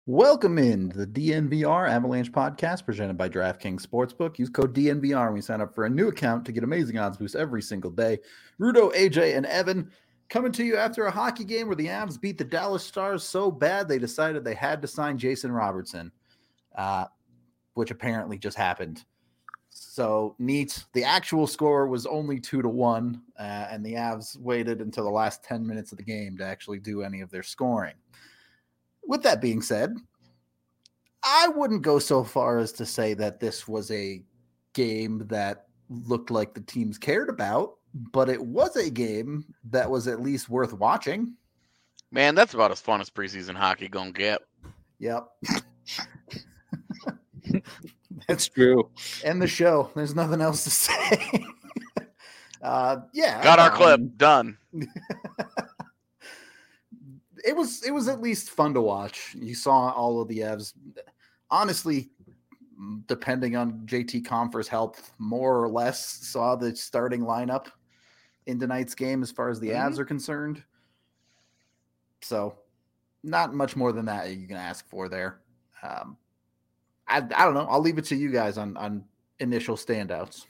Welcome in to the DNVR Avalanche podcast presented by DraftKings Sportsbook. Use code DNVR when you sign up for a new account to get amazing odds boosts every single day. Rudo, AJ, and Evan coming to you after a hockey game where the Avs beat the Dallas Stars so bad they decided they had to sign Jason Robertson, which apparently just happened. So neat. The actual score was only 2-1, and the Avs waited until the last 10 minutes of the game to actually do any of their scoring. With that being said, I wouldn't go so far as to say that this was a game that looked like the teams cared about, but it was a game that was at least worth watching. Man, that's about as fun as preseason hockey gonna get. Yep. That's true. End the show. There's nothing else to say. Got our clip done. It was at least fun to watch. You saw all of the Avs. Honestly, depending on JT Compher's health, more or less saw the starting lineup in tonight's game as far as the Avs are concerned. So, not much more than that you can ask for there. I don't know. I'll leave it to you guys on initial standouts.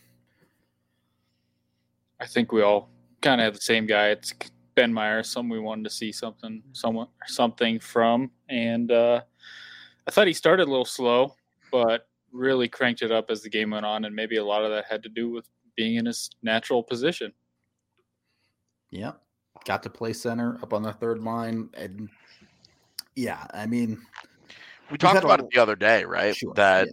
I think we all kind of have the same guy. It's Ben Meyers, someone we wanted to see something from. And I thought he started a little slow, but really cranked it up as the game went on. And maybe a lot of that had to do with being in his natural position. Yeah. Got to play center up on the third line. And yeah, I mean, we talked about it the other day, right? Sure, that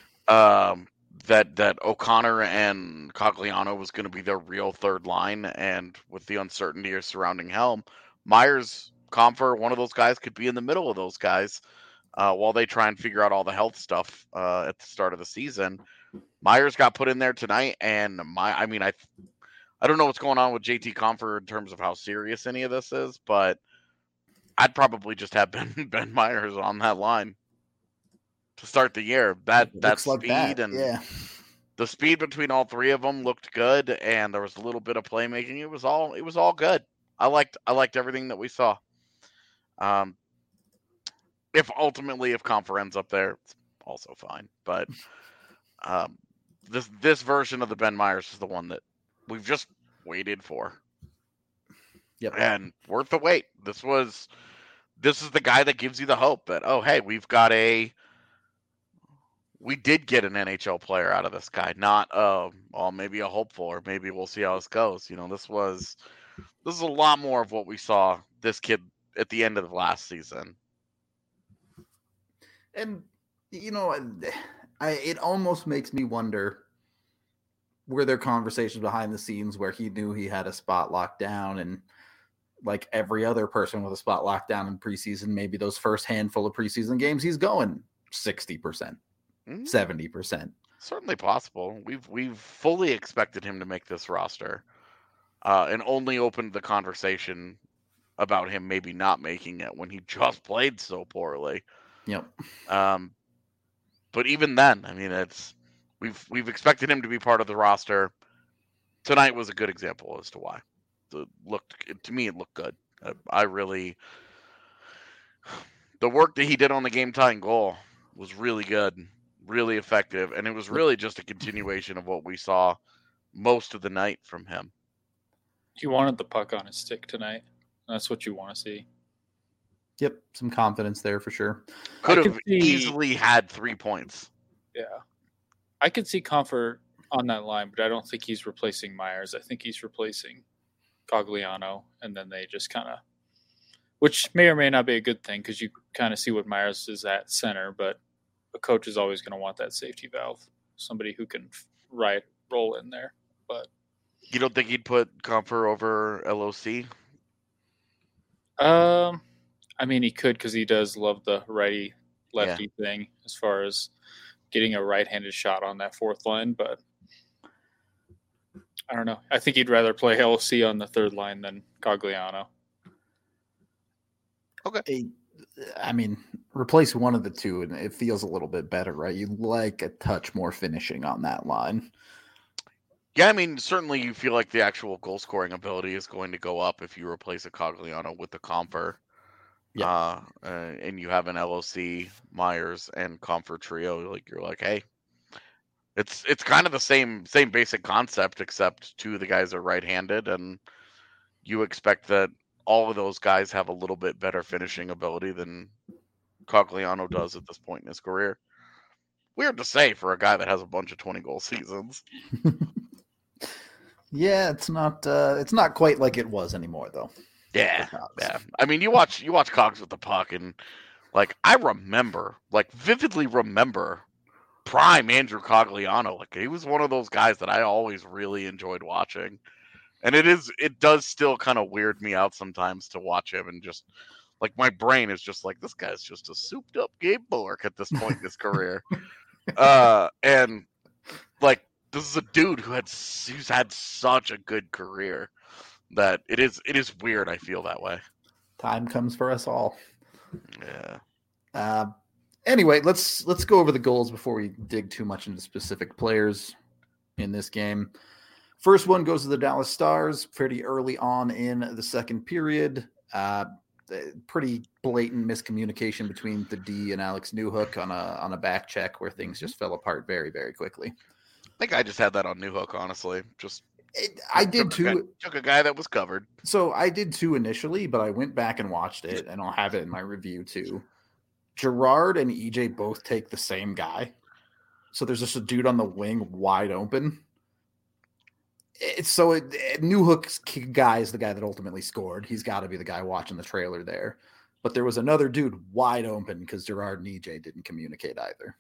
O'Connor and Cogliano was going to be their real third line, and with the uncertainty surrounding Helm, Myers, Compher, one of those guys could be in the middle of those guys while they try and figure out all the health stuff at the start of the season. Myers got put in there tonight, and I don't know what's going on with JT Compher in terms of how serious any of this is, but I'd probably just have Ben Meyers on that line to start the year. That speed and the speed between all three of them looked good, and there was a little bit of playmaking. It was all good. I liked everything that we saw. If Compher ends up there, it's also fine. But this version of the Ben Meyers is the one that we've just waited for. Yep. And worth the wait. This is the guy that gives you the hope that, oh, hey, we did get an NHL player out of this guy, not maybe a hopeful, or maybe we'll see how this goes. This is a lot more of what we saw this kid at the end of the last season. And it almost makes me wonder, were there conversations behind the scenes where he knew he had a spot locked down, and like every other person with a spot locked down in preseason, maybe those first handful of preseason games, he's going 60%. 70%. Certainly possible. We've fully expected him to make this roster, and only opened the conversation about him maybe not making it when he just played so poorly. Yep. But even then, I mean, we've expected him to be part of the roster. Tonight was a good example as to why. To me, it looked good. The work that he did on the game-tying goal was really good. Really effective, and it was really just a continuation of what we saw most of the night from him. He wanted the puck on his stick tonight. That's what you want to see. Yep, some confidence there for sure. Could have easily had 3 points. Yeah. I could see Compher on that line, but I don't think he's replacing Myers. I think he's replacing Cogliano, and then they just kind of, which may or may not be a good thing, because you kind of see what Myers is at center, but a coach is always going to want that safety valve, somebody who can roll in there. But you don't think he'd put Compher over LOC? I mean, he could, because he does love the righty-lefty thing as far as getting a right-handed shot on that fourth line. But I don't know. I think he'd rather play LOC on the third line than Cogliano. Okay. I mean, replace one of the two, and it feels a little bit better, right? You like a touch more finishing on that line. Yeah, I mean, certainly you feel like the actual goal-scoring ability is going to go up if you replace a Cogliano with a Compher. and you have an LOC, Myers, and Comfort trio, like you're like, hey, it's kind of the same basic concept, except two of the guys are right-handed, and you expect that all of those guys have a little bit better finishing ability than Cogliano does at this point in his career. Weird to say for a guy that has a bunch of 20-goal seasons. Yeah, it's not quite like it was anymore, though. Yeah. I mean, you watch Cogs with the puck, and like I vividly remember prime Andrew Cogliano. Like he was one of those guys that I always really enjoyed watching. And it does still kind of weird me out sometimes to watch him, and just like my brain is just like, this guy's just a souped up Gabe Bullock at this point in his career. And like this is a dude who's had such a good career that it is weird. I feel that way. Time comes for us all. Yeah. Anyway, let's go over the goals before we dig too much into specific players in this game. First one goes to the Dallas Stars pretty early on in the second period. Pretty blatant miscommunication between the D and Alex Newhook on a back check where things just fell apart very, very quickly. I think I just had that on Newhook, honestly. I did too. Took a guy that was covered. So I did too initially, but I went back and watched it, and I'll have it in my review too. Gerard and EJ both take the same guy. So there's just a dude on the wing wide open. Newhook's guy is the guy that ultimately scored. He's got to be the guy watching the trailer there. But there was another dude wide open because Gerard and EJ didn't communicate either.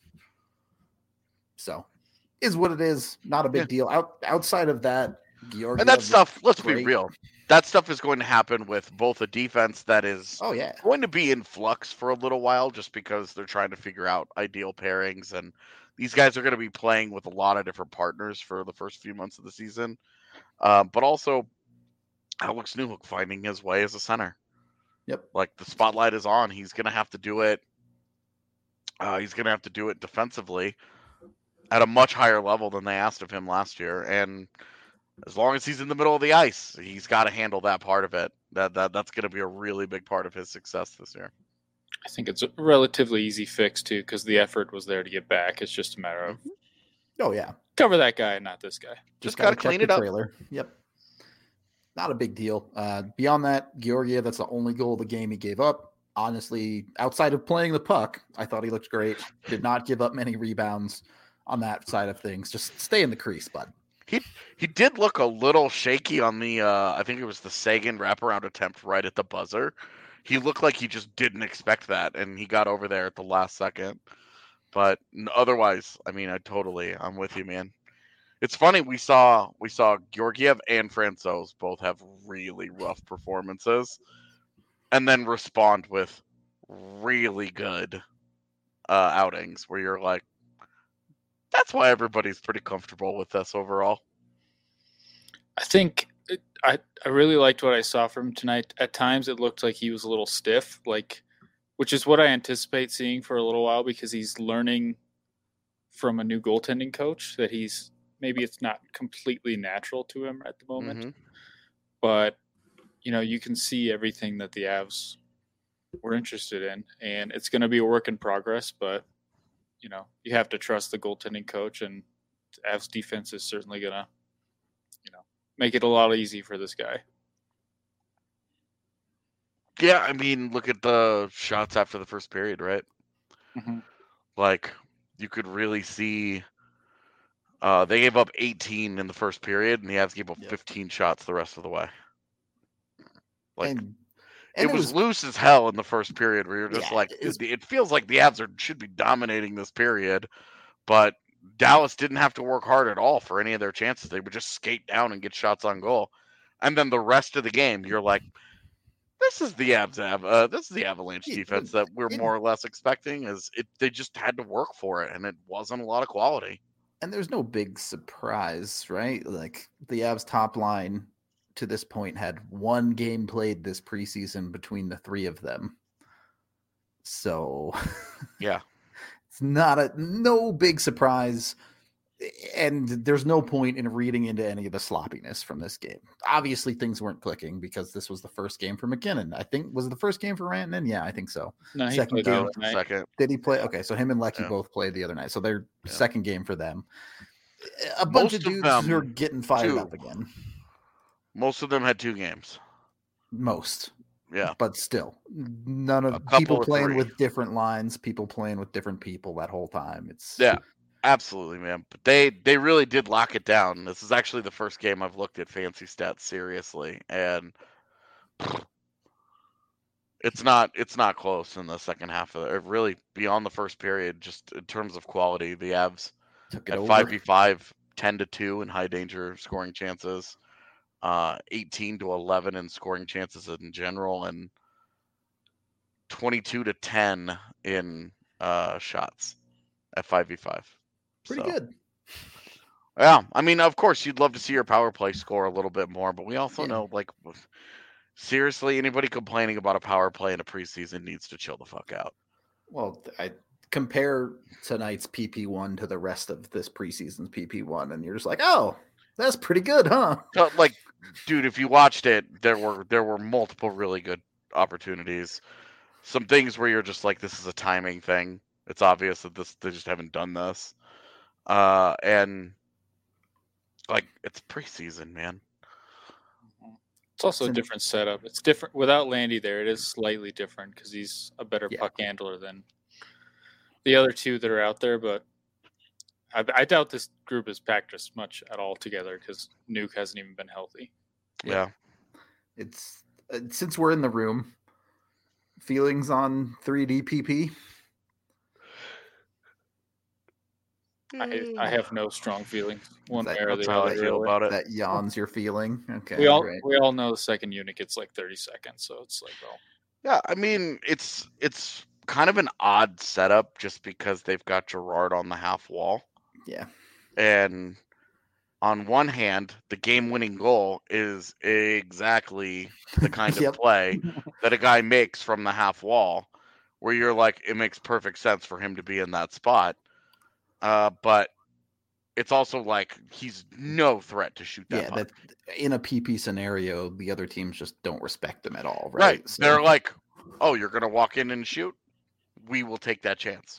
So, is what it is. Not a big deal. Outside of that, Georgiev, and that stuff, let's be real, that stuff is going to happen with both a defense that is going to be in flux for a little while, just because they're trying to figure out ideal pairings, and these guys are going to be playing with a lot of different partners for the first few months of the season. But also Alex Newhook finding his way as a center. Yep. Like the spotlight is on. He's going to have to do it. He's going to have to do it defensively at a much higher level than they asked of him last year. And as long as he's in the middle of the ice, he's got to handle that part of it. That's going to be a really big part of his success this year. I think it's a relatively easy fix too, because the effort was there to get back. It's just a matter of cover that guy, not this guy. Just got to clean it up. Trailer. Yep. Not a big deal. Beyond that, Georgiev, that's the only goal of the game he gave up. Honestly, outside of playing the puck, I thought he looked great. Did not give up many rebounds on that side of things. Just stay in the crease, bud. He did look a little shaky on the I think it was the Sagan wraparound attempt right at the buzzer. He looked like he just didn't expect that, and he got over there at the last second. But otherwise, I mean, I'm with you, man. It's funny, we saw Georgiev and Francouz both have really rough performances, and then respond with really good outings where you're like, that's why everybody's pretty comfortable with this overall. I think I really liked what I saw from him tonight. At times it looked like he was a little stiff, which is what I anticipate seeing for a little while, because he's learning from a new goaltending coach that maybe it's not completely natural to him at the moment. Mm-hmm. But, you can see everything that the Avs were interested in, and it's going to be a work in progress, but you have to trust the goaltending coach, and the Avs defense is certainly going to, make it a lot easy for this guy. Yeah, I mean, look at the shots after the first period, right? Mm-hmm. Like, you could really see they gave up 18 in the first period, and the Avs gave up 15 shots the rest of the way. Like, and it was loose as hell in the first period, where you're just it feels like the Avs should be dominating this period, but Dallas didn't have to work hard at all for any of their chances. They would just skate down and get shots on goal. And then the rest of the game, you're like, this is the Avalanche defense that we're more or less expecting. They just had to work for it, and it wasn't a lot of quality. And there's no big surprise, right? Like, the Avs top line to this point had one game played this preseason between the three of them. So yeah. It's no big surprise. And there's no point in reading into any of the sloppiness from this game. Obviously, things weren't clicking because this was the first game for McKinnon. I think was it the first game for Rantanen? Yeah, I think so. No, he Second played the game. other night. Second. Did he play? Okay, so him and Lecky Yeah. both played the other night. So they're Yeah. second game for them. A bunch Most of of dudes them, who are getting fired too. up again. Most of them had 2 games. Most. Yeah. But still, none of A couple people or playing 3. with different lines, people playing with different people that whole time. It's Yeah, absolutely, man. But they really did lock it down. This is actually the first game I've looked at fancy stats seriously, and it's not close in the second half of it. Really, beyond the first period, just in terms of quality, the Avs took it at over. 5v5, 10-2 in high danger scoring chances, 18-11 in scoring chances in general, and 22-10 in shots at 5v5. Pretty So, good. yeah, I mean, of course, you'd love to see your power play score a little bit more, but we also Yeah. know, like, seriously, anybody complaining about a power play in a preseason needs to chill the fuck out. Well, I compare tonight's PP1 to the rest of this preseason's PP1, and you're just like, oh, that's pretty good, huh? So, like, dude, if you watched it, there were multiple really good opportunities. Some things where you're just like, this is a timing thing. It's obvious that they just haven't done this. And like, it's preseason, man. It's also a different setup. It's different without Landy there. It is slightly different because he's a better Yeah. puck handler than the other two that are out there. But I doubt this group is packed as much at all together because Nuke hasn't even been healthy. Yeah. It's since we're in the room, feelings on 3D PP? I have no strong feelings one way or That's the how other. I feel Really. about it. That yawns your feeling. Okay, We all great. we all know the second unit gets like 30 seconds, so it's like, well, Yeah, I mean, it's kind of an odd setup just because they've got Gerard on the half wall. Yeah. And on one hand, the game-winning goal is exactly the kind Yep. of play that a guy makes from the half wall, where you're like, it makes perfect sense for him to be in that spot. But it's also like he's no threat to shoot that Yeah, puck. that in a PP scenario, the other teams just don't respect them at all, right? Right. So- They're like, oh, you're going to walk in and shoot? We will take that chance.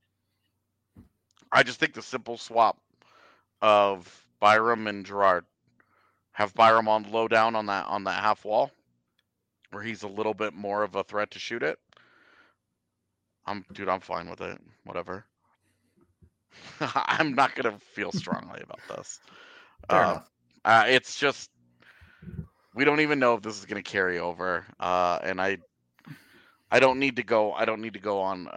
I just think the simple swap of Byram and Gerard, have Byram on low down on that half wall, where he's a little bit more of a threat to shoot it. I'm fine with it. Whatever. I'm not gonna feel strongly about this. Fair enough. It's just we don't even know if this is gonna carry over. And I don't need to go. I don't need to go on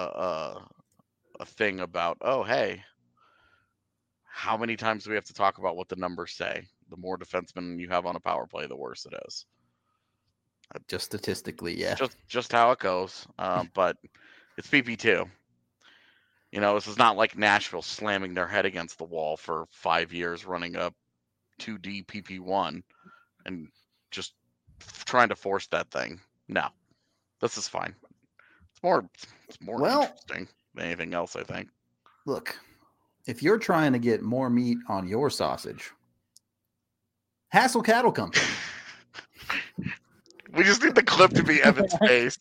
a thing about, oh, hey, how many times do we have to talk about what the numbers say? The more defensemen you have on a power play, the worse it is. Just statistically, yeah. Just how it goes. But it's PP2. You know, this is not like Nashville slamming their head against the wall for 5 years running a 2D PP1 and just trying to force that thing. No, this is fine. It's more Well- interesting than anything else, I think. Look, if you're trying to get more meat on your sausage, Hassel Cattle Company. We just need the clip to be Evan's face.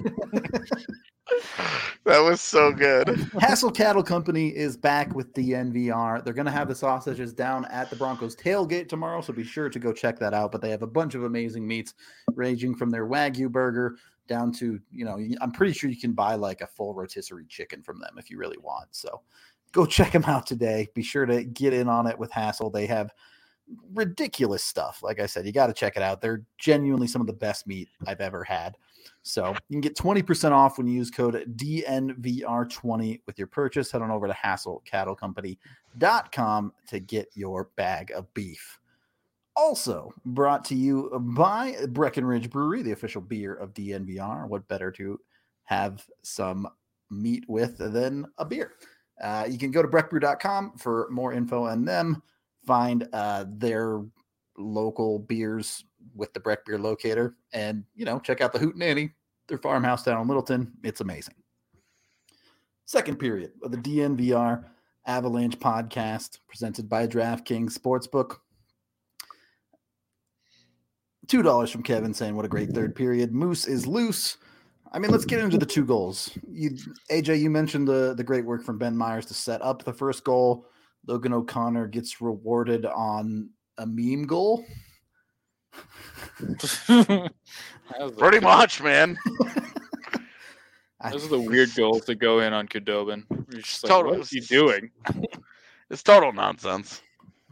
That was so good. Hassel Cattle Company is back with the DNVR. They're going to have the sausages down at the Broncos tailgate tomorrow, so be sure to go check that out. But they have a bunch of amazing meats, ranging from their Wagyu burger down to, I'm pretty sure you can buy like a full rotisserie chicken from them if you really want. So go check them out today. Be sure to get in on it with Hassel. They have ridiculous stuff. Like I said, you got to check it out. They're genuinely some of the best meat I've ever had. So you can get 20% off when you use code DNVR20 with your purchase. Head on over to HassleCattleCompany.com to get your bag of beef. Also brought to you by Breckenridge Brewery, the official beer of DNVR. What better to have some meat with than a beer? You can go to breckbrew.com for more info on them. Find their local beers with the Breck Beer Locator, and check out the Hootenanny, their farmhouse down in Littleton. It's amazing. Second period of the DNVR Avalanche podcast presented by DraftKings Sportsbook. $2 from Kevin saying, what a great third period. Moose is loose. I mean, let's get into the 2 goals. AJ, you mentioned the great work from Ben Meyers to set up the first goal. Logan O'Connor gets rewarded on a meme goal. Pretty much, man. Those are the weird goals that go in on Khudobin. You're just like, Total- what is he doing? It's total nonsense.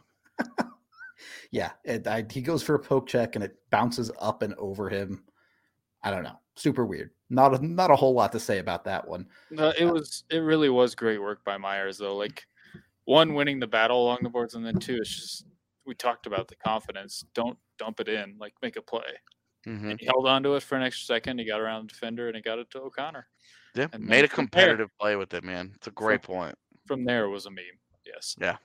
Yeah, he goes for a poke check and it bounces up and over him. I don't know. Super weird. Not a whole lot to say about that one. No, it really was great work by Myers though. Like, one, winning the battle along the boards, and then 2, it's just, we talked about the confidence. Don't dump it in. Like, make a play. Mm-hmm. And he held on to it for an extra second. He got around the defender and he got it to O'Connor. Yeah, And made then a competitive play with it, man. It's a great point. From there, it was a meme. Yes. Yeah.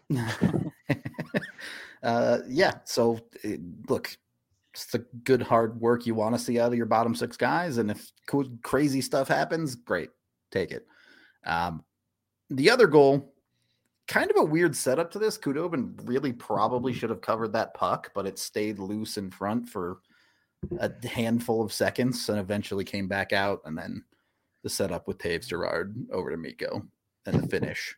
Yeah. So, look, it's the good hard work you want to see out of your bottom 6 guys, and if crazy stuff happens, great, take it. The other goal, kind of a weird setup to this. Khudobin really probably should have covered that puck, but it stayed loose in front for a handful of seconds and eventually came back out, and then the setup with Taves Girard over to Mikko and the finish.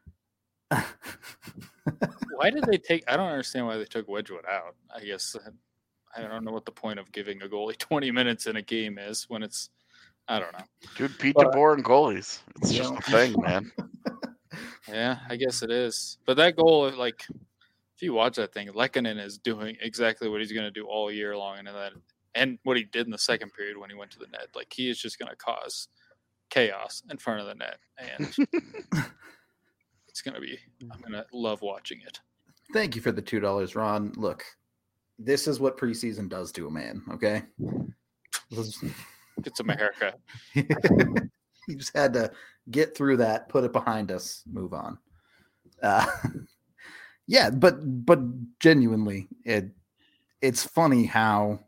Why did they take? I don't understand why they took Wedgwood out. I guess I don't know what the point of giving a goalie 20 minutes in a game is when it's. I don't know, dude. Pete DeBoer and goalies. It's just a thing, man. Yeah, I guess it is. But that goal, like, if you watch that thing, Lehkonen is doing exactly what he's going to do all year long, and what he did in the second period when he went to the net. Like, he is just going to cause chaos in front of the net, and it's going to be. I'm going to love watching it. Thank you for the $2, Ron. Look, this is what preseason does to a man. Okay, Get some haircut. You just had to get through that, put it behind us, move on. Yeah, but genuinely, it's funny how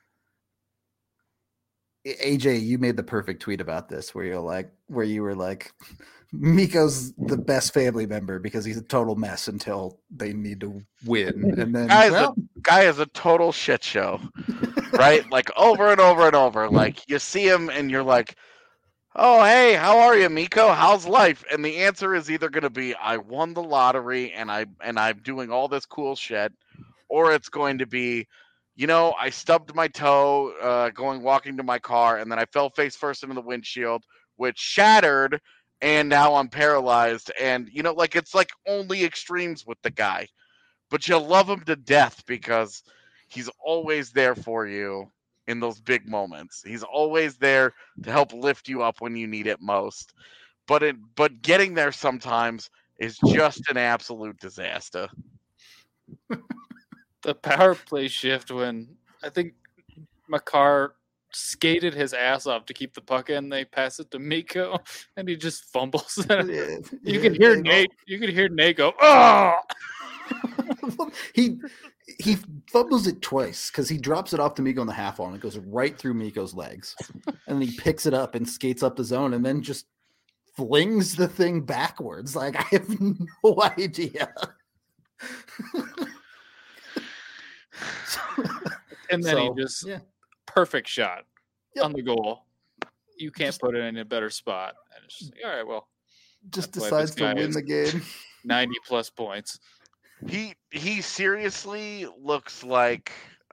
AJ, you made the perfect tweet about this, where you were like, Mikko's the best family member because he's a total mess until they need to win, and then guy is a total shit show, right? Like over and over and over. Like you see him and you're like, oh, hey, how are you, Mikko? How's life? And the answer is either going to be, I won the lottery and I'm doing all this cool shit, or it's going to be, I stubbed my toe walking to my car, and then I fell face first into the windshield, which shattered, and now I'm paralyzed. And, it's like only extremes with the guy. But you love him to death because he's always there for you in those big moments. He's always there to help lift you up when you need it most. But getting there sometimes is just an absolute disaster. The power play shift when I think Makar skated his ass off to keep the puck in, they pass it to Mikko and he just fumbles it. You can hear Nate. You can hear Nate go, oh! He fumbles it twice because he drops it off to Mikko in the half wall and it goes right through Mikko's legs. And then he picks it up and skates up the zone and then just flings the thing backwards. Like, I have no idea. And then he just perfect shot on the goal. You can't put it in a better spot. And it's just like, all right, well, just decides to win the game. 90 plus points. He seriously looks like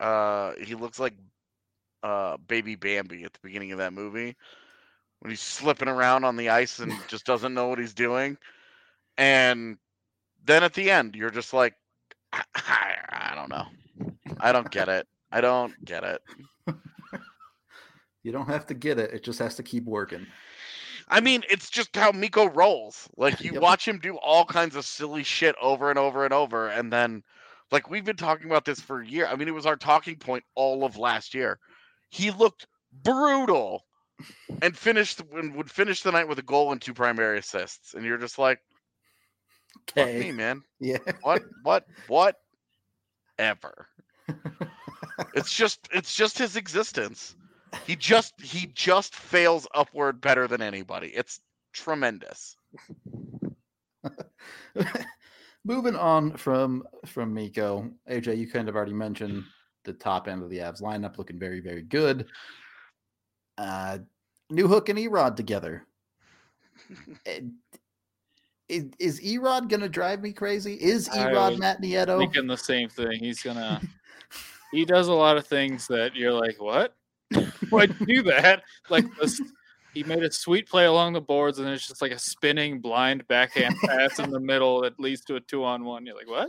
Baby Bambi at the beginning of that movie when he's slipping around on the ice and just doesn't know what he's doing. And then at the end, you're just like, I don't know. I don't get it. I don't get it. You don't have to get it. It just has to keep working. I mean, it's just how Mikko rolls. Like, you watch him do all kinds of silly shit over and over and over. And then, like, we've been talking about this for a year. I mean, it was our talking point all of last year. He looked brutal and would finish the night with a goal and 2 primary assists. And you're just like, okay, fuck me, man. Yeah. What? Ever. It's just his existence. He just fails upward better than anybody. It's tremendous. Moving on from Miko, AJ, you kind of already mentioned the top end of the Avs lineup looking very, very good. Newhook and Erod together. Is Erod gonna drive me crazy? Is Erod Matt Nieto? Thinking the same thing. He does a lot of things that you're like, what? Why'd you do that? Like he made a sweet play along the boards, and it's just like a spinning blind backhand pass in the middle that leads to a 2-on-1. You're like, what?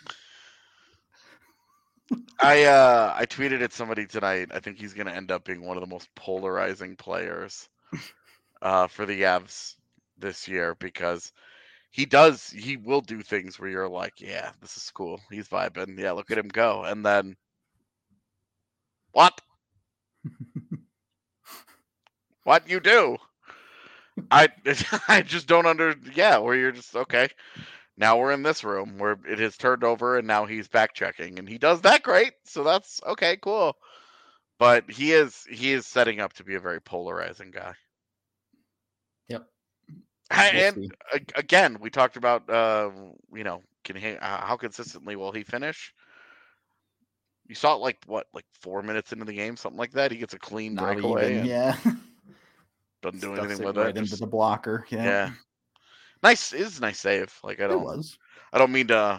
I tweeted at somebody tonight. I think he's going to end up being one of the most polarizing players for the Avs this year, because he will do things where you're like, yeah, this is cool. He's vibing. Yeah, look at him go. And then what? What you do? I just don't where you're just okay. Now we're in this room where it has turned over, and now he's back checking, and he does that great. So that's okay, cool. But he is setting up to be a very polarizing guy. Yep. And again, we talked about how consistently will he finish? You saw it like 4 minutes into the game, something like that. He gets a clean breakaway. Yeah. Doesn't do anything with right it. Into the blocker. Yeah. Nice. It is a nice save. Like I don't mean to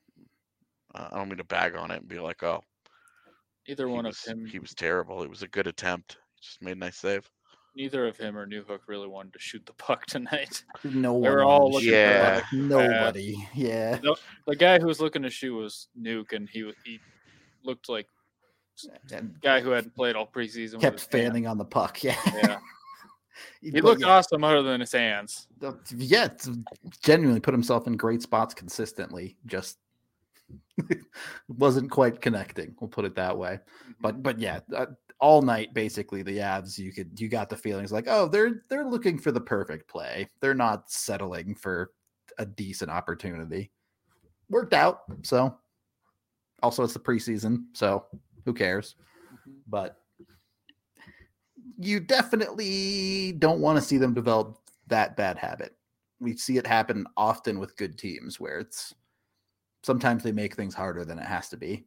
bag on it and be like, oh, one of him. He was terrible. It was a good attempt. He just made a nice save. Neither of him or Newhook really wanted to shoot the puck tonight. No one. They were all looking for nobody. Yeah. The guy who was looking to shoot was Nuke, and he looked like a guy who hadn't played all preseason. Kept fanning on the puck. Yeah. He looked awesome other than his hands. Yeah, genuinely put himself in great spots consistently. Just wasn't quite connecting. We'll put it that way. But yeah, all night basically the Avs, you got the feelings like, oh, they're looking for the perfect play. They're not settling for a decent opportunity. Worked out. So also it's the preseason, so who cares? But you definitely don't want to see them develop that bad habit. We see it happen often with good teams where sometimes they make things harder than it has to be.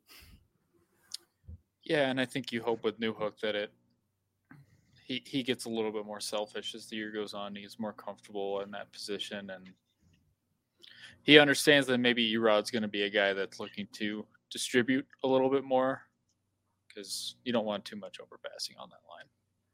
Yeah, and I think you hope with Newhook that he gets a little bit more selfish as the year goes on. He's more comfortable in that position, and he understands that maybe Erod's going to be a guy that's looking to distribute a little bit more, because you don't want too much overpassing on that line.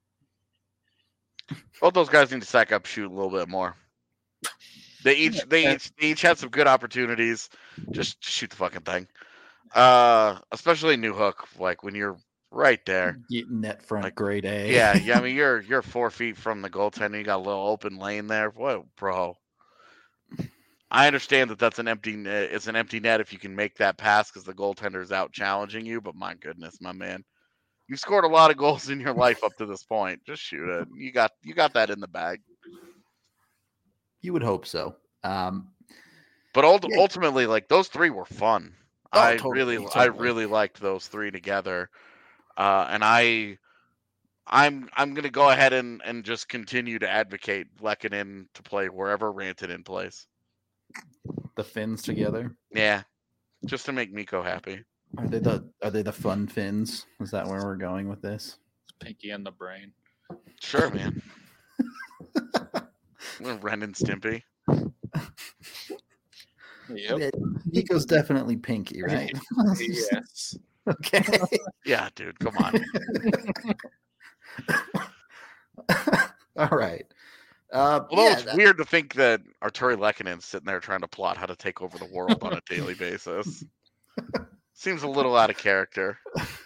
Both those guys need to sack up, shoot a little bit more. They each had some good opportunities. Just shoot the fucking thing. Especially Newhook, like when you're right there, net front, grade A. Yeah. I mean, you're 4 feet from the goaltender. You got a little open lane there. What, bro? I understand that's an empty. It's an empty net if you can make that pass because the goaltender is out challenging you. But my goodness, my man. You've scored a lot of goals in your life up to this point. Just shoot it. You got that in the bag. You would hope so. But ultimately, like those three were fun. Oh, I totally. really liked those three together. And I'm gonna go ahead and just continue to advocate Lehkonen to play wherever Rantanen plays. The Finns together. Yeah, just to make Mikko happy. Are they the fun Finns? Is that where we're going with this? It's Pinky and the Brain. Sure, man. Ren and Stimpy. Yep. Nico's definitely Pinky, right? Yes. Okay. Yeah, dude, come on. All right. It's weird to think that Arturi Lehkonen's sitting there trying to plot how to take over the world on a daily basis. Seems a little out of character.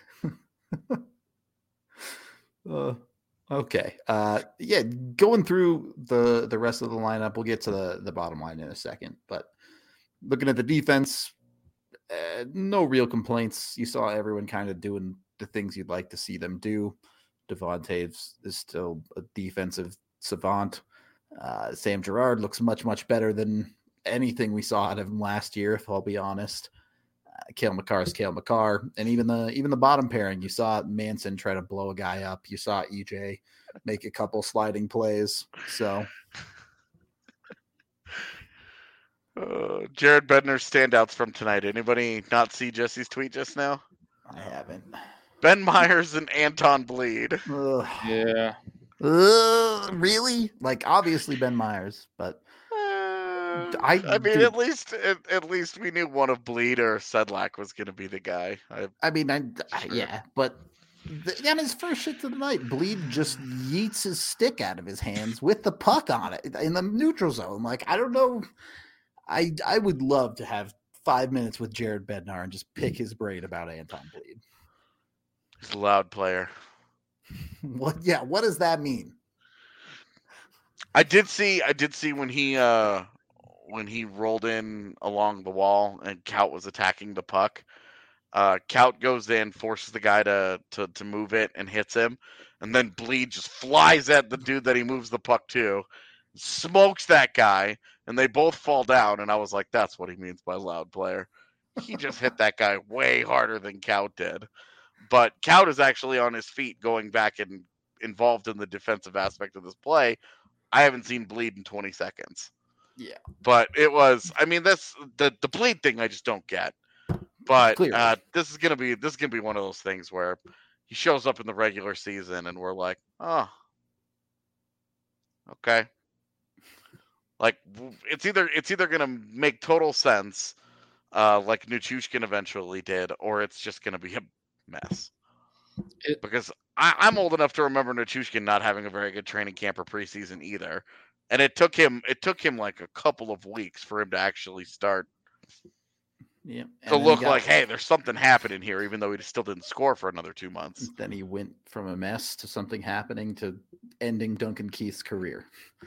Okay. Going through the rest of the lineup, we'll get to the bottom line in a second. But looking at the defense, no real complaints. You saw everyone kind of doing the things you'd like to see them do. Devontae is still a defensive savant. Sam Girard looks much, much better than anything we saw out of him last year, if I'll be honest. Cale Makar is Cale Makar. And even the bottom pairing, you saw Manson try to blow a guy up. You saw EJ make a couple sliding plays. So Jared Bednar standouts from tonight. Anybody not see Jesse's tweet just now? I haven't. Ben Myers and Anton Bleed. Ugh. Yeah. Really? Like, obviously Ben Myers, but I mean, at least we knew one of Bleed or Sedlak was going to be the guy. Yeah, but on his first shit of the night, Bleed just yeets his stick out of his hands with the puck on it in the neutral zone. Like, I don't know. I would love to have 5 minutes with Jared Bednar and just pick his brain about Anton Bleed. He's a loud player. What? Yeah. What does that mean? I did see when he rolled in along the wall and Kaut was attacking the puck. Kaut goes in, forces the guy to move it and hits him, and then Bleed just flies at the dude that he moves the puck to, smokes that guy, and they both fall down. And I was like, that's what he means by loud player. He just hit that guy way harder than Kaut did. But Kaut is actually on his feet going back and involved in the defensive aspect of this play. I haven't seen Bleed in 20 seconds. Yeah. But it was, I mean, that's the Bleed thing I just don't get. But this is gonna be one of those things where he shows up in the regular season and we're like, oh, okay. Like it's either gonna make total sense, like Nichushkin eventually did, or it's just gonna be a mess. Because I'm old enough to remember Nichushkin not having a very good training camp or preseason either, and it took him like a couple of weeks for him to actually start. Yeah, to look like, hey, there's something happening here, even though he still didn't score for another 2 months. Then he went from a mess to something happening to ending Duncan Keith's career.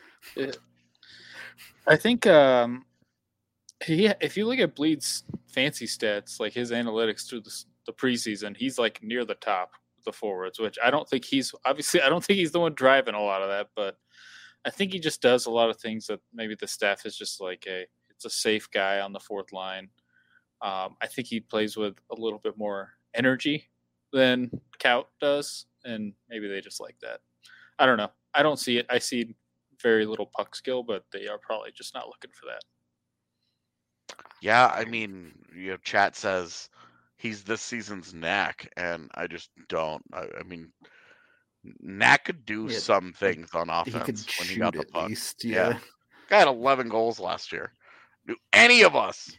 I think if you look at Bleed's fancy stats, like his analytics through the preseason, he's like near the top of the forwards, which I don't think he's the one driving a lot of that, but I think he just does a lot of things that maybe the staff is just like, it's a safe guy on the fourth line. I think he plays with a little bit more energy than Kaut does, and maybe they just like that. I don't know. I don't see it. I see very little puck skill, but they are probably just not looking for that. Yeah, I mean, chat says he's this season's Knack, and I just don't. I mean, Knack could do some things on offense when he got the puck. Least, yeah. Guy had 11 goals last year. Do any of us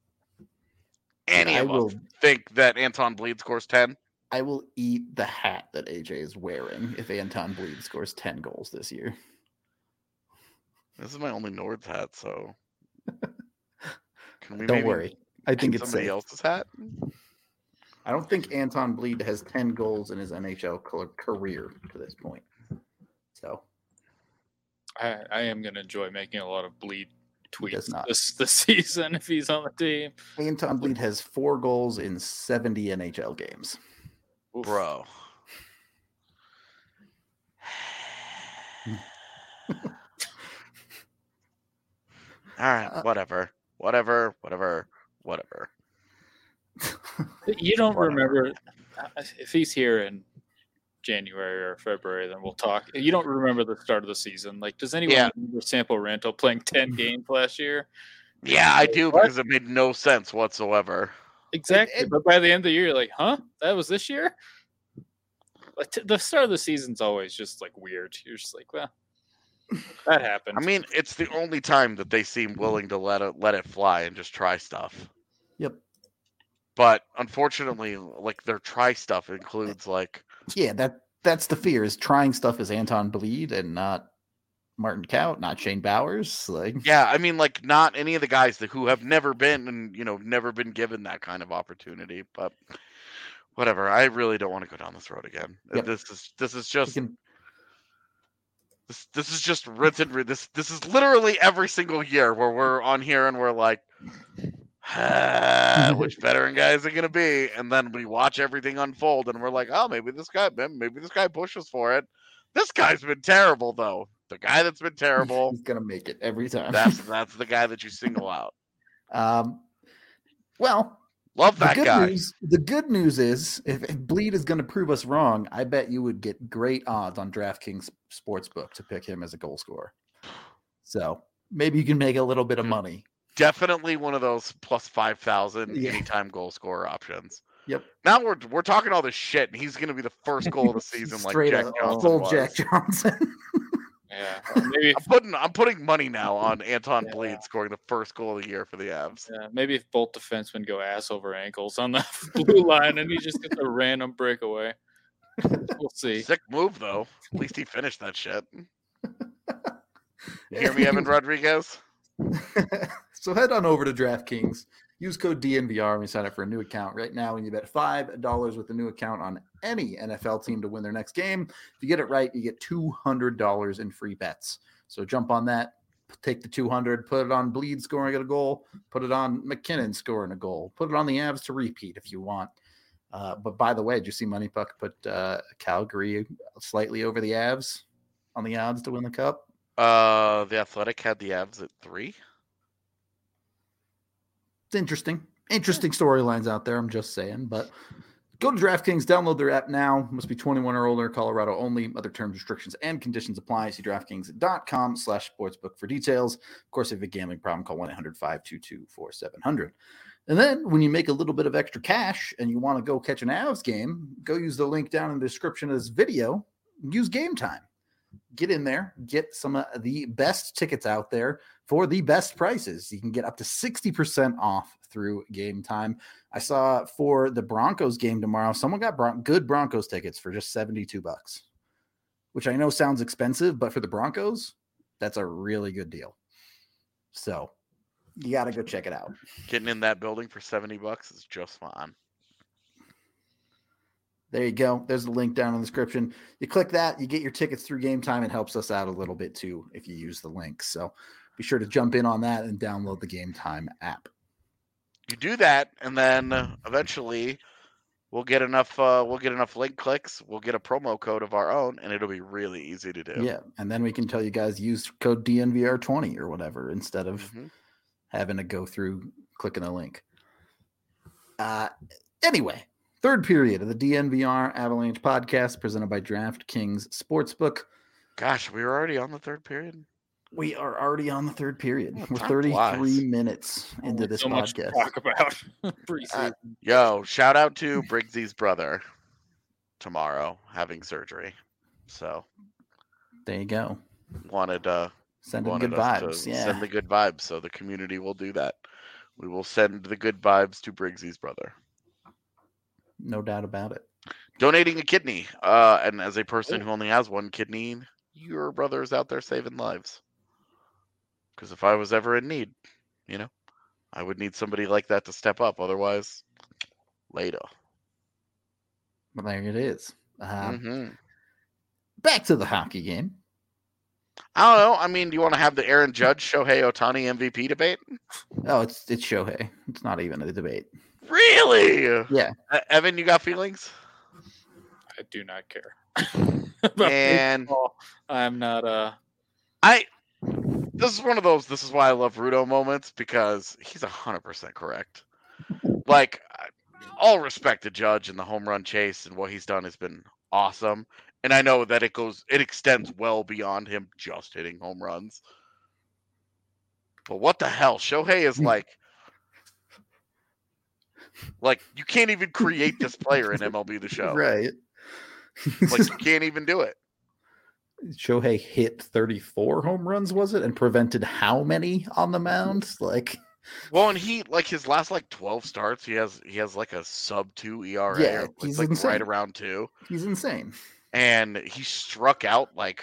think that Anton Bleed scores 10? I will eat the hat that AJ is wearing if Anton Bleed scores 10 goals this year. This is my only Nords hat, so can we don't worry. I think it's somebody else's hat. I don't think Anton Bleed has 10 goals in his NHL career to this point. So I am going to enjoy making a lot of Bleed tweets this season if he's on the team. Anton Bleed has 4 goals in 70 NHL games. Oof. Bro. All right, whatever. You don't remember if he's here in January or February, then we'll talk. You don't remember the start of the season. Like, does anyone remember Sampo Ranto playing 10 games last year? Yeah, I do, because it made no sense whatsoever. Exactly. But by the end of the year, you're like, huh? That was this year? Like, the start of the season's always just like weird. You're just like, well, that happened. I mean, it's the only time that they seem willing to let it fly and just try stuff. Yep. But unfortunately, like, their try stuff includes like, yeah, that's the fear, is trying stuff as Anton Bleed and not Martin Kaut, not Shane Bowers. Like, yeah, I mean, like, not any of the guys who have never been never been given that kind of opportunity. But whatever, I really don't want to go down this road again. Yep. This is just this is just rinse and this is literally every single year where we're on here and we're like, which veteran guy is it going to be? And then we watch everything unfold and we're like, oh, maybe this guy pushes for it. This guy's been terrible, though. The guy that's been terrible, he's going to make it every time. That's the guy that you single out. Well, love that guy. The good news is, if Bleed is going to prove us wrong, I bet you would get great odds on DraftKings Sportsbook to pick him as a goal scorer. So maybe you can make a little bit of money. Definitely one of those plus 5,000 Yeah. anytime goal scorer options. Yep. Now we're talking all this shit, and he's going to be the first goal of the season, like Straight Jack up, Johnson full was. Jack Johnson. Yeah, maybe I'm putting money now on Anton Bleed scoring the first goal of the year for the Avs. maybe if both defensemen go ass over ankles on the blue line, and he just gets a random breakaway. We'll see. Sick move though. At least he finished that shit. You hear me, Evan Rodriguez? So head on over to DraftKings. Use code DNVR when you sign up for a new account. Right now, when you bet $5 with a new account on any NFL team to win their next game, if you get it right, you get $200 in free bets. So jump on that, take the 200, put it on Bleed scoring a goal, put it on McKinnon scoring a goal, put it on the Avs to repeat if you want. But by the way, did you see Money Puck put Calgary slightly over the Avs on the odds to win the Cup? The Athletic had the Avs at 3. It's interesting storylines out there. I'm just saying, but go to DraftKings, download their app now. Must be 21 or older, Colorado only. Other terms, restrictions, and conditions apply. See DraftKings.com/sportsbook for details. Of course, if you have a gambling problem, call 1-800-522-4700. And then when you make a little bit of extra cash and you want to go catch an Avs game, go use the link down in the description of this video. Use Game Time. Get in there, get some of the best tickets out there for the best prices. You can get up to 60% off through Game Time. I saw for the Broncos game tomorrow, someone got good Broncos tickets for just $72, which I know sounds expensive, but for the Broncos, that's a really good deal. So you got to go check it out. Getting in that building for $70 is just fine. There you go. There's the link down in the description. You click that, you get your tickets through Game Time. It helps us out a little bit too if you use the link. So be sure to jump in on that and download the Game Time app. You do that, and then eventually we'll get enough link clicks. We'll get a promo code of our own, and it'll be really easy to do. Yeah, and then we can tell you guys use code DNVR20 or whatever instead of having to go through clicking a link. Anyway. Third period of the DNVR Avalanche podcast presented by DraftKings Sportsbook. Gosh, we were already on the third period. We are already on the third period. Oh, we're 33 minutes into this so podcast. Much to talk about. Yo, shout out to Briggsy's brother tomorrow having surgery. So there you go. Wanted good vibes. Yeah. Send the good vibes. So the community will do that. We will send the good vibes to Briggsy's brother. No doubt about it. Donating a kidney. And as a person who only has one kidney, your brother is out there saving lives. Because if I was ever in need, I would need somebody like that to step up. Otherwise, later. Well, there it is. Back to the hockey game. I don't know. I mean, do you want to have the Aaron Judge, Shohei Ohtani MVP debate? Oh, it's Shohei. It's not even a debate. Really? Yeah. Evan, you got feelings? I do not care. And I'm not. This is one of those. This is why I love Rudo moments because he's 100% correct. Like, all respect to Judge and the home run chase and what he's done has been awesome. And I know that it extends well beyond him just hitting home runs. But what the hell? Shohei is like you can't even create this player in MLB The Show. Right. Like, you can't even do it. Shohei hit 34 home runs, was it? And prevented how many on the mound? Well, and he, his last 12 starts, he has like a sub-2 ERA. Yeah, he's insane. Right around 2. He's insane. And he struck out like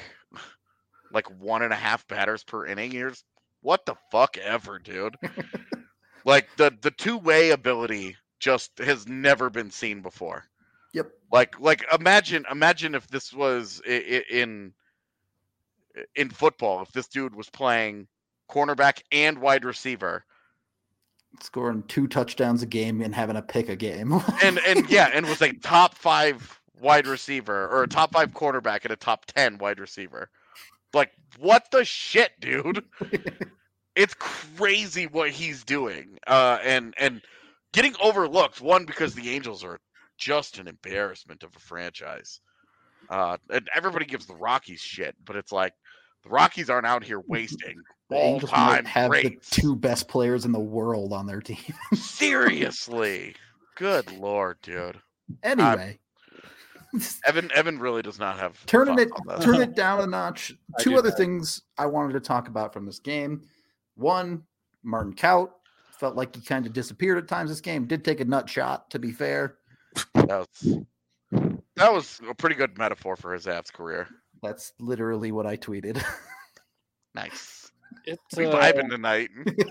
1.5 batters per inning. Years. What the fuck ever, dude? The two-way ability just has never been seen before. Yep. Imagine if this was in football, if this dude was playing cornerback and wide receiver, scoring 2 touchdowns a game and having a pick a game, and was a top 5 wide receiver or a top 5 quarterback and a top 10 wide receiver. What the shit, dude? It's crazy what he's doing, and getting overlooked. One, because the Angels are just an embarrassment of a franchise, and everybody gives the Rockies shit, but it's like the Rockies aren't out here wasting The Angels might all-time have greats. the two best players in the world on their team. Seriously. Good Lord, dude. Anyway. Evan really does not have Turn thoughts on this. it down a notch. I Two do other not. things I wanted to talk about from this game. One, Martin Kaut felt like he kind of disappeared at times this game. Did take a nut shot, to be fair. That was a pretty good metaphor for his Avs career. That's literally what I tweeted. Nice. It's We vibing tonight.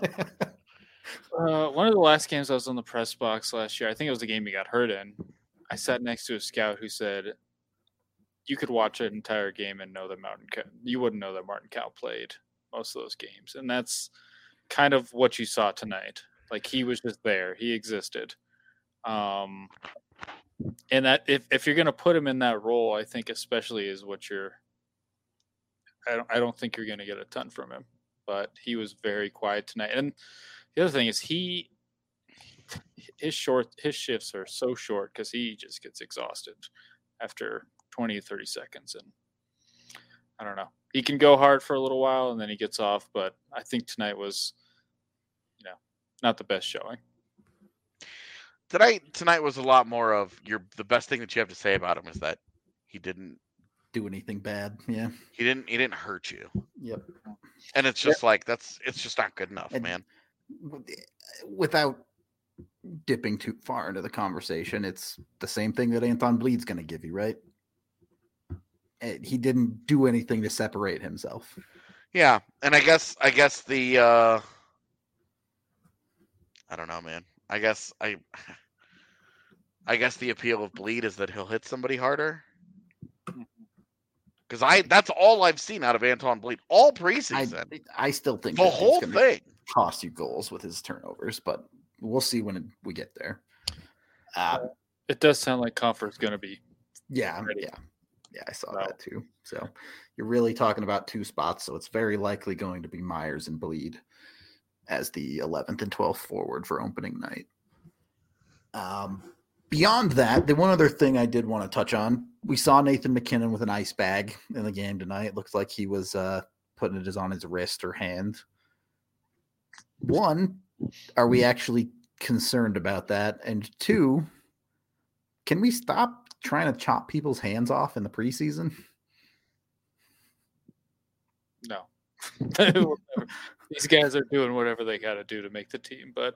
one of the last games I was on the press box last year. I think it was the game he got hurt in. I sat next to a scout who said, "You could watch an entire game and know that you wouldn't know that Martin Kaut played most of those games," and that's kind of what you saw tonight. Like, he was just there, he existed, and that if you're going to put him in that role, I think especially is what you're. I don't think you're going to get a ton from him, but he was very quiet tonight. And the other thing is his shifts are so short because he just gets exhausted after 20 to 30 seconds. And I don't know. He can go hard for a little while and then he gets off, but I think tonight was, not the best showing. Tonight was a lot more of the best thing that you have to say about him is that he didn't Do anything bad. Yeah. he didn't hurt you. Yep. And it's just like it's just not good enough, And- man. Without dipping too far into the conversation, it's the same thing that Anton Bleed's going to give you, right? He didn't do anything to separate himself. Yeah, and I guess the I don't know, man. I guess the appeal of Bleed is that he'll hit somebody harder. Because that's all I've seen out of Anton Bleed all preseason. I still think The that he's whole gonna thing. cost you goals with his turnovers, but we'll see when we get there. It does sound like Comfort's going to be. Yeah, Ready. yeah, I saw So- that too. So you're really talking about two spots, so it's very likely going to be Myers and Bleed as the 11th and 12th forward for opening night. Beyond that, the one other thing I did want to touch on, we saw Nathan McKinnon with an ice bag in the game tonight. It looks like he was putting it on his wrist or hand. One, are we actually concerned about that? And two, can we stop trying to chop people's hands off in the preseason? No. These guys are doing whatever they got to do to make the team. But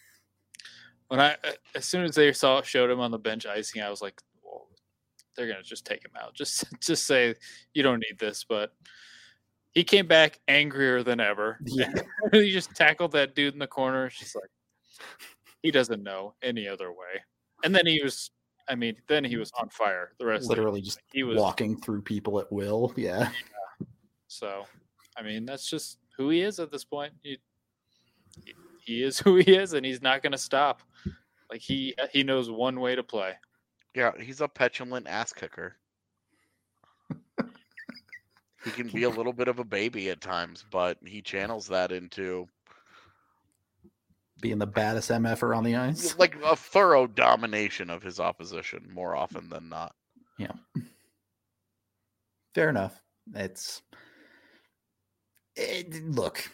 as soon as they showed him on the bench icing, I was like, well, they're going to just take him out. Just say, you don't need this. But he came back angrier than ever. Yeah. He just tackled that dude in the corner. She's like, he doesn't know any other way. And then he was on fire the rest Literally of the just he was walking through people at will. Yeah. So, that's just who he is at this point. He is who he is, and he's not going to stop. Like, he knows one way to play. Yeah, he's a petulant ass kicker. He can be a little bit of a baby at times, but he channels that into Being the baddest MFer on the ice. like a thorough domination of his opposition more often than not. Fair enough. Look,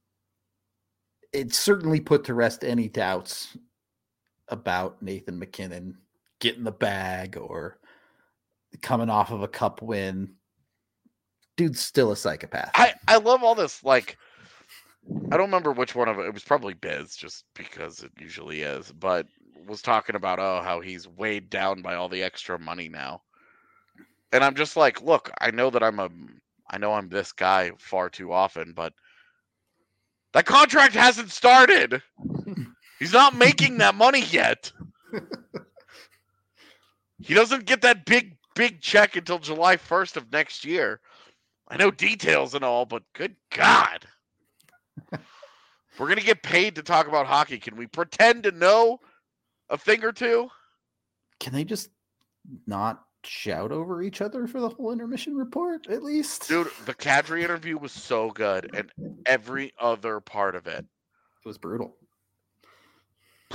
it certainly put to rest any doubts about Nathan McKinnon getting the bag or coming off of a cup win. Dude's still a psychopath. I love all this, like, I don't remember which one of it was probably Biz, just because it usually is, but was talking about how he's weighed down by all the extra money now. And I'm just like, look, I know I'm this guy far too often, but that contract hasn't started. He's not making that money yet. He doesn't get that big check until July 1st of next year. I know details and all, but good God. We're going to get paid to talk about hockey. Can we pretend to know a thing or two? Can they just not shout over each other for the whole intermission report, at least? Dude, the Kadri interview was so good, and every other part of it. It was brutal. I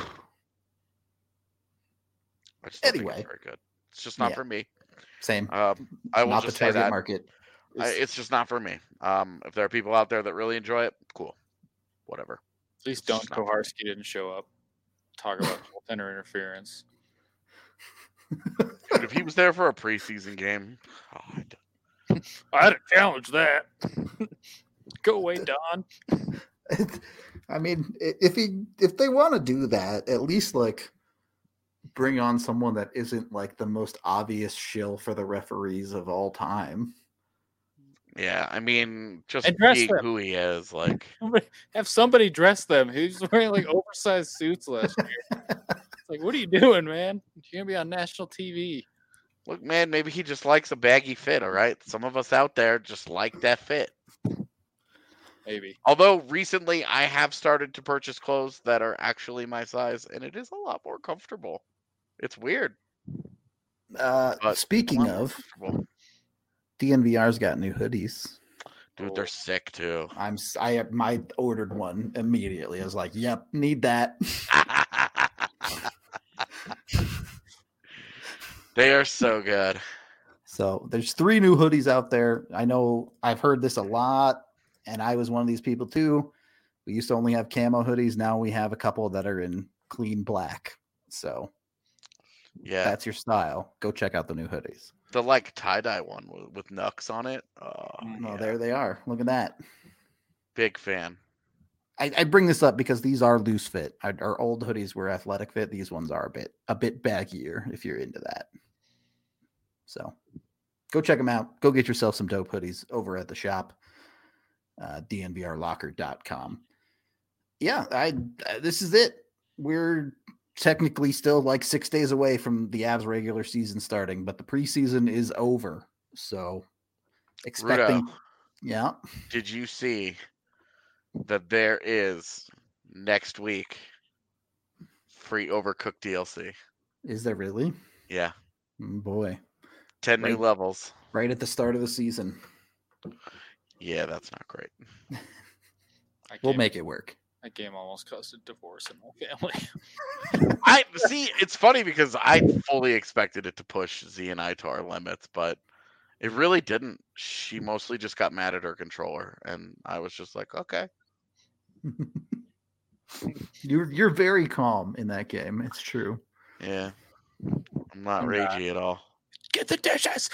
just don't think Anyway. it's very good. It's just not Yeah. for me. Same. I will Not the just say target that. market. It's just not for me. If there are people out there that really enjoy it, cool. Whatever. At least Don Koharski didn't show up. Talk about goaltender interference. Dude, if he was there for a preseason game, I'd challenge that. Go away, Don. I mean, if they want to do that, at least like bring on someone that isn't like the most obvious shill for the referees of all time. Yeah, I mean, just being who he is, like have somebody dress them. Who's wearing like oversized suits last year? It's like, what are you doing, man? You're gonna be on national TV. Look, man, maybe he just likes a baggy fit. All right, some of us out there just like that fit. Maybe. Although recently I have started to purchase clothes that are actually my size, and it is a lot more comfortable. It's weird. Speaking of, DNVR's got new hoodies. Dude, they're sick too. I ordered one immediately. I was like, "Yep, need that." They are so good. So there's 3 new hoodies out there. I know I've heard this a lot, and I was one of these people too. We used to only have camo hoodies. Now we have a couple that are in clean black. So yeah, that's your style. Go check out the new hoodies. The like tie-dye one with Nux on it. Oh, there they are. Look at that. Big fan. I bring this up because these are loose fit. Our old hoodies were athletic fit. These ones are a bit baggier if you're into that. So go check them out. Go get yourself some dope hoodies over at the shop, dnvrlocker.com. Yeah, this is it. We're technically still like 6 days away from the Avs regular season starting, but the preseason is over. So expecting. Rudo, yeah. Did you see that there is next week free Overcooked DLC? Is there really? Yeah. Oh boy. 10 new levels. Right at the start of the season. Yeah, that's not great. We'll make it work. That game almost caused a divorce in my family. I see. It's funny because I fully expected it to push Z and I to our limits, but it really didn't. She mostly just got mad at her controller, and I was just like, okay. You're very calm in that game. It's true. Yeah, I'm not ragey at all. Get the dishes.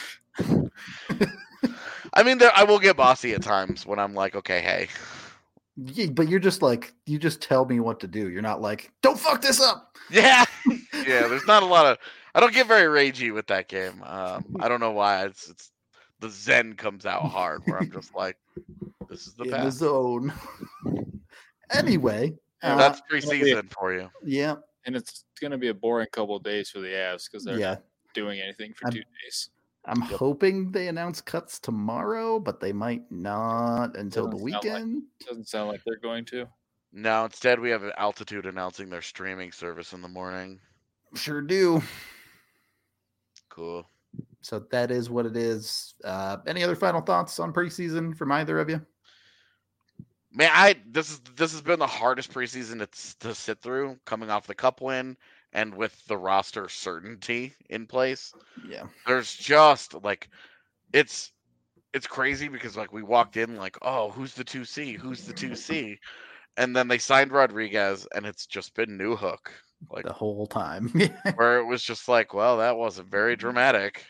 I mean, I will get bossy at times when I'm like, okay, hey. Yeah, but you're just like, you just tell me what to do. You're not like, don't fuck this up. Yeah. Yeah, there's not a lot of, I don't get very ragey with that game. I don't know why. It's the zen comes out hard where I'm just like, this is the in path. the zone. Anyway. That's preseason for you. Yeah. And it's going to be a boring couple of days for the Avs because they're not doing anything for 2 days. I'm hoping they announce cuts tomorrow, but they might not until the weekend. Doesn't sound like they're going to. No, instead we have Altitude announcing their streaming service in the morning. Sure do. Cool. So that is what it is. Any other final thoughts on preseason from either of you? Man, this has been the hardest preseason to sit through, coming off the Cup win and with the roster certainty in place. Yeah, there's just like it's crazy because like we walked in like, oh, who's the 2C? Who's the 2C? And then they signed Rodriguez, and it's just been Newhook like the whole time. where it was just like, well, that wasn't very dramatic.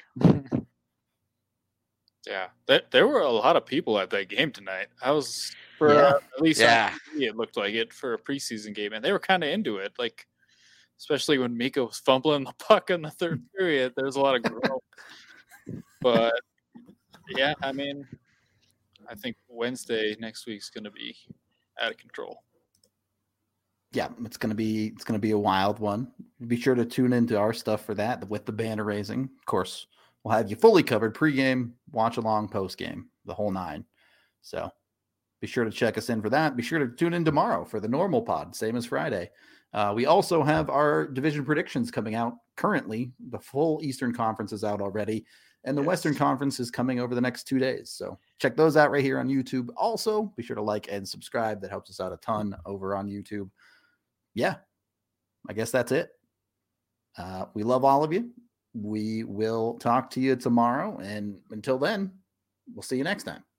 Yeah, there were a lot of people at that game tonight. I was at least it looked like it for a preseason game, and they were kind of into it. Like, especially when Mika was fumbling the puck in the third period, there's a lot of growth. But yeah, I mean, I think Wednesday next week's going to be out of control. Yeah, it's gonna be a wild one. Be sure to tune into our stuff for that with the banner raising. Of course, we'll have you fully covered pregame, watch along, postgame, the whole 9. So be sure to check us in for that. Be sure to tune in tomorrow for the normal pod, same as Friday. We also have our division predictions coming out currently. The full Eastern Conference is out already, and the Western Conference is coming over the next 2 days. So check those out right here on YouTube. Also, be sure to like and subscribe. That helps us out a ton over on YouTube. Yeah, I guess that's it. We love all of you. We will talk to you tomorrow. And until then, We'll see you next time.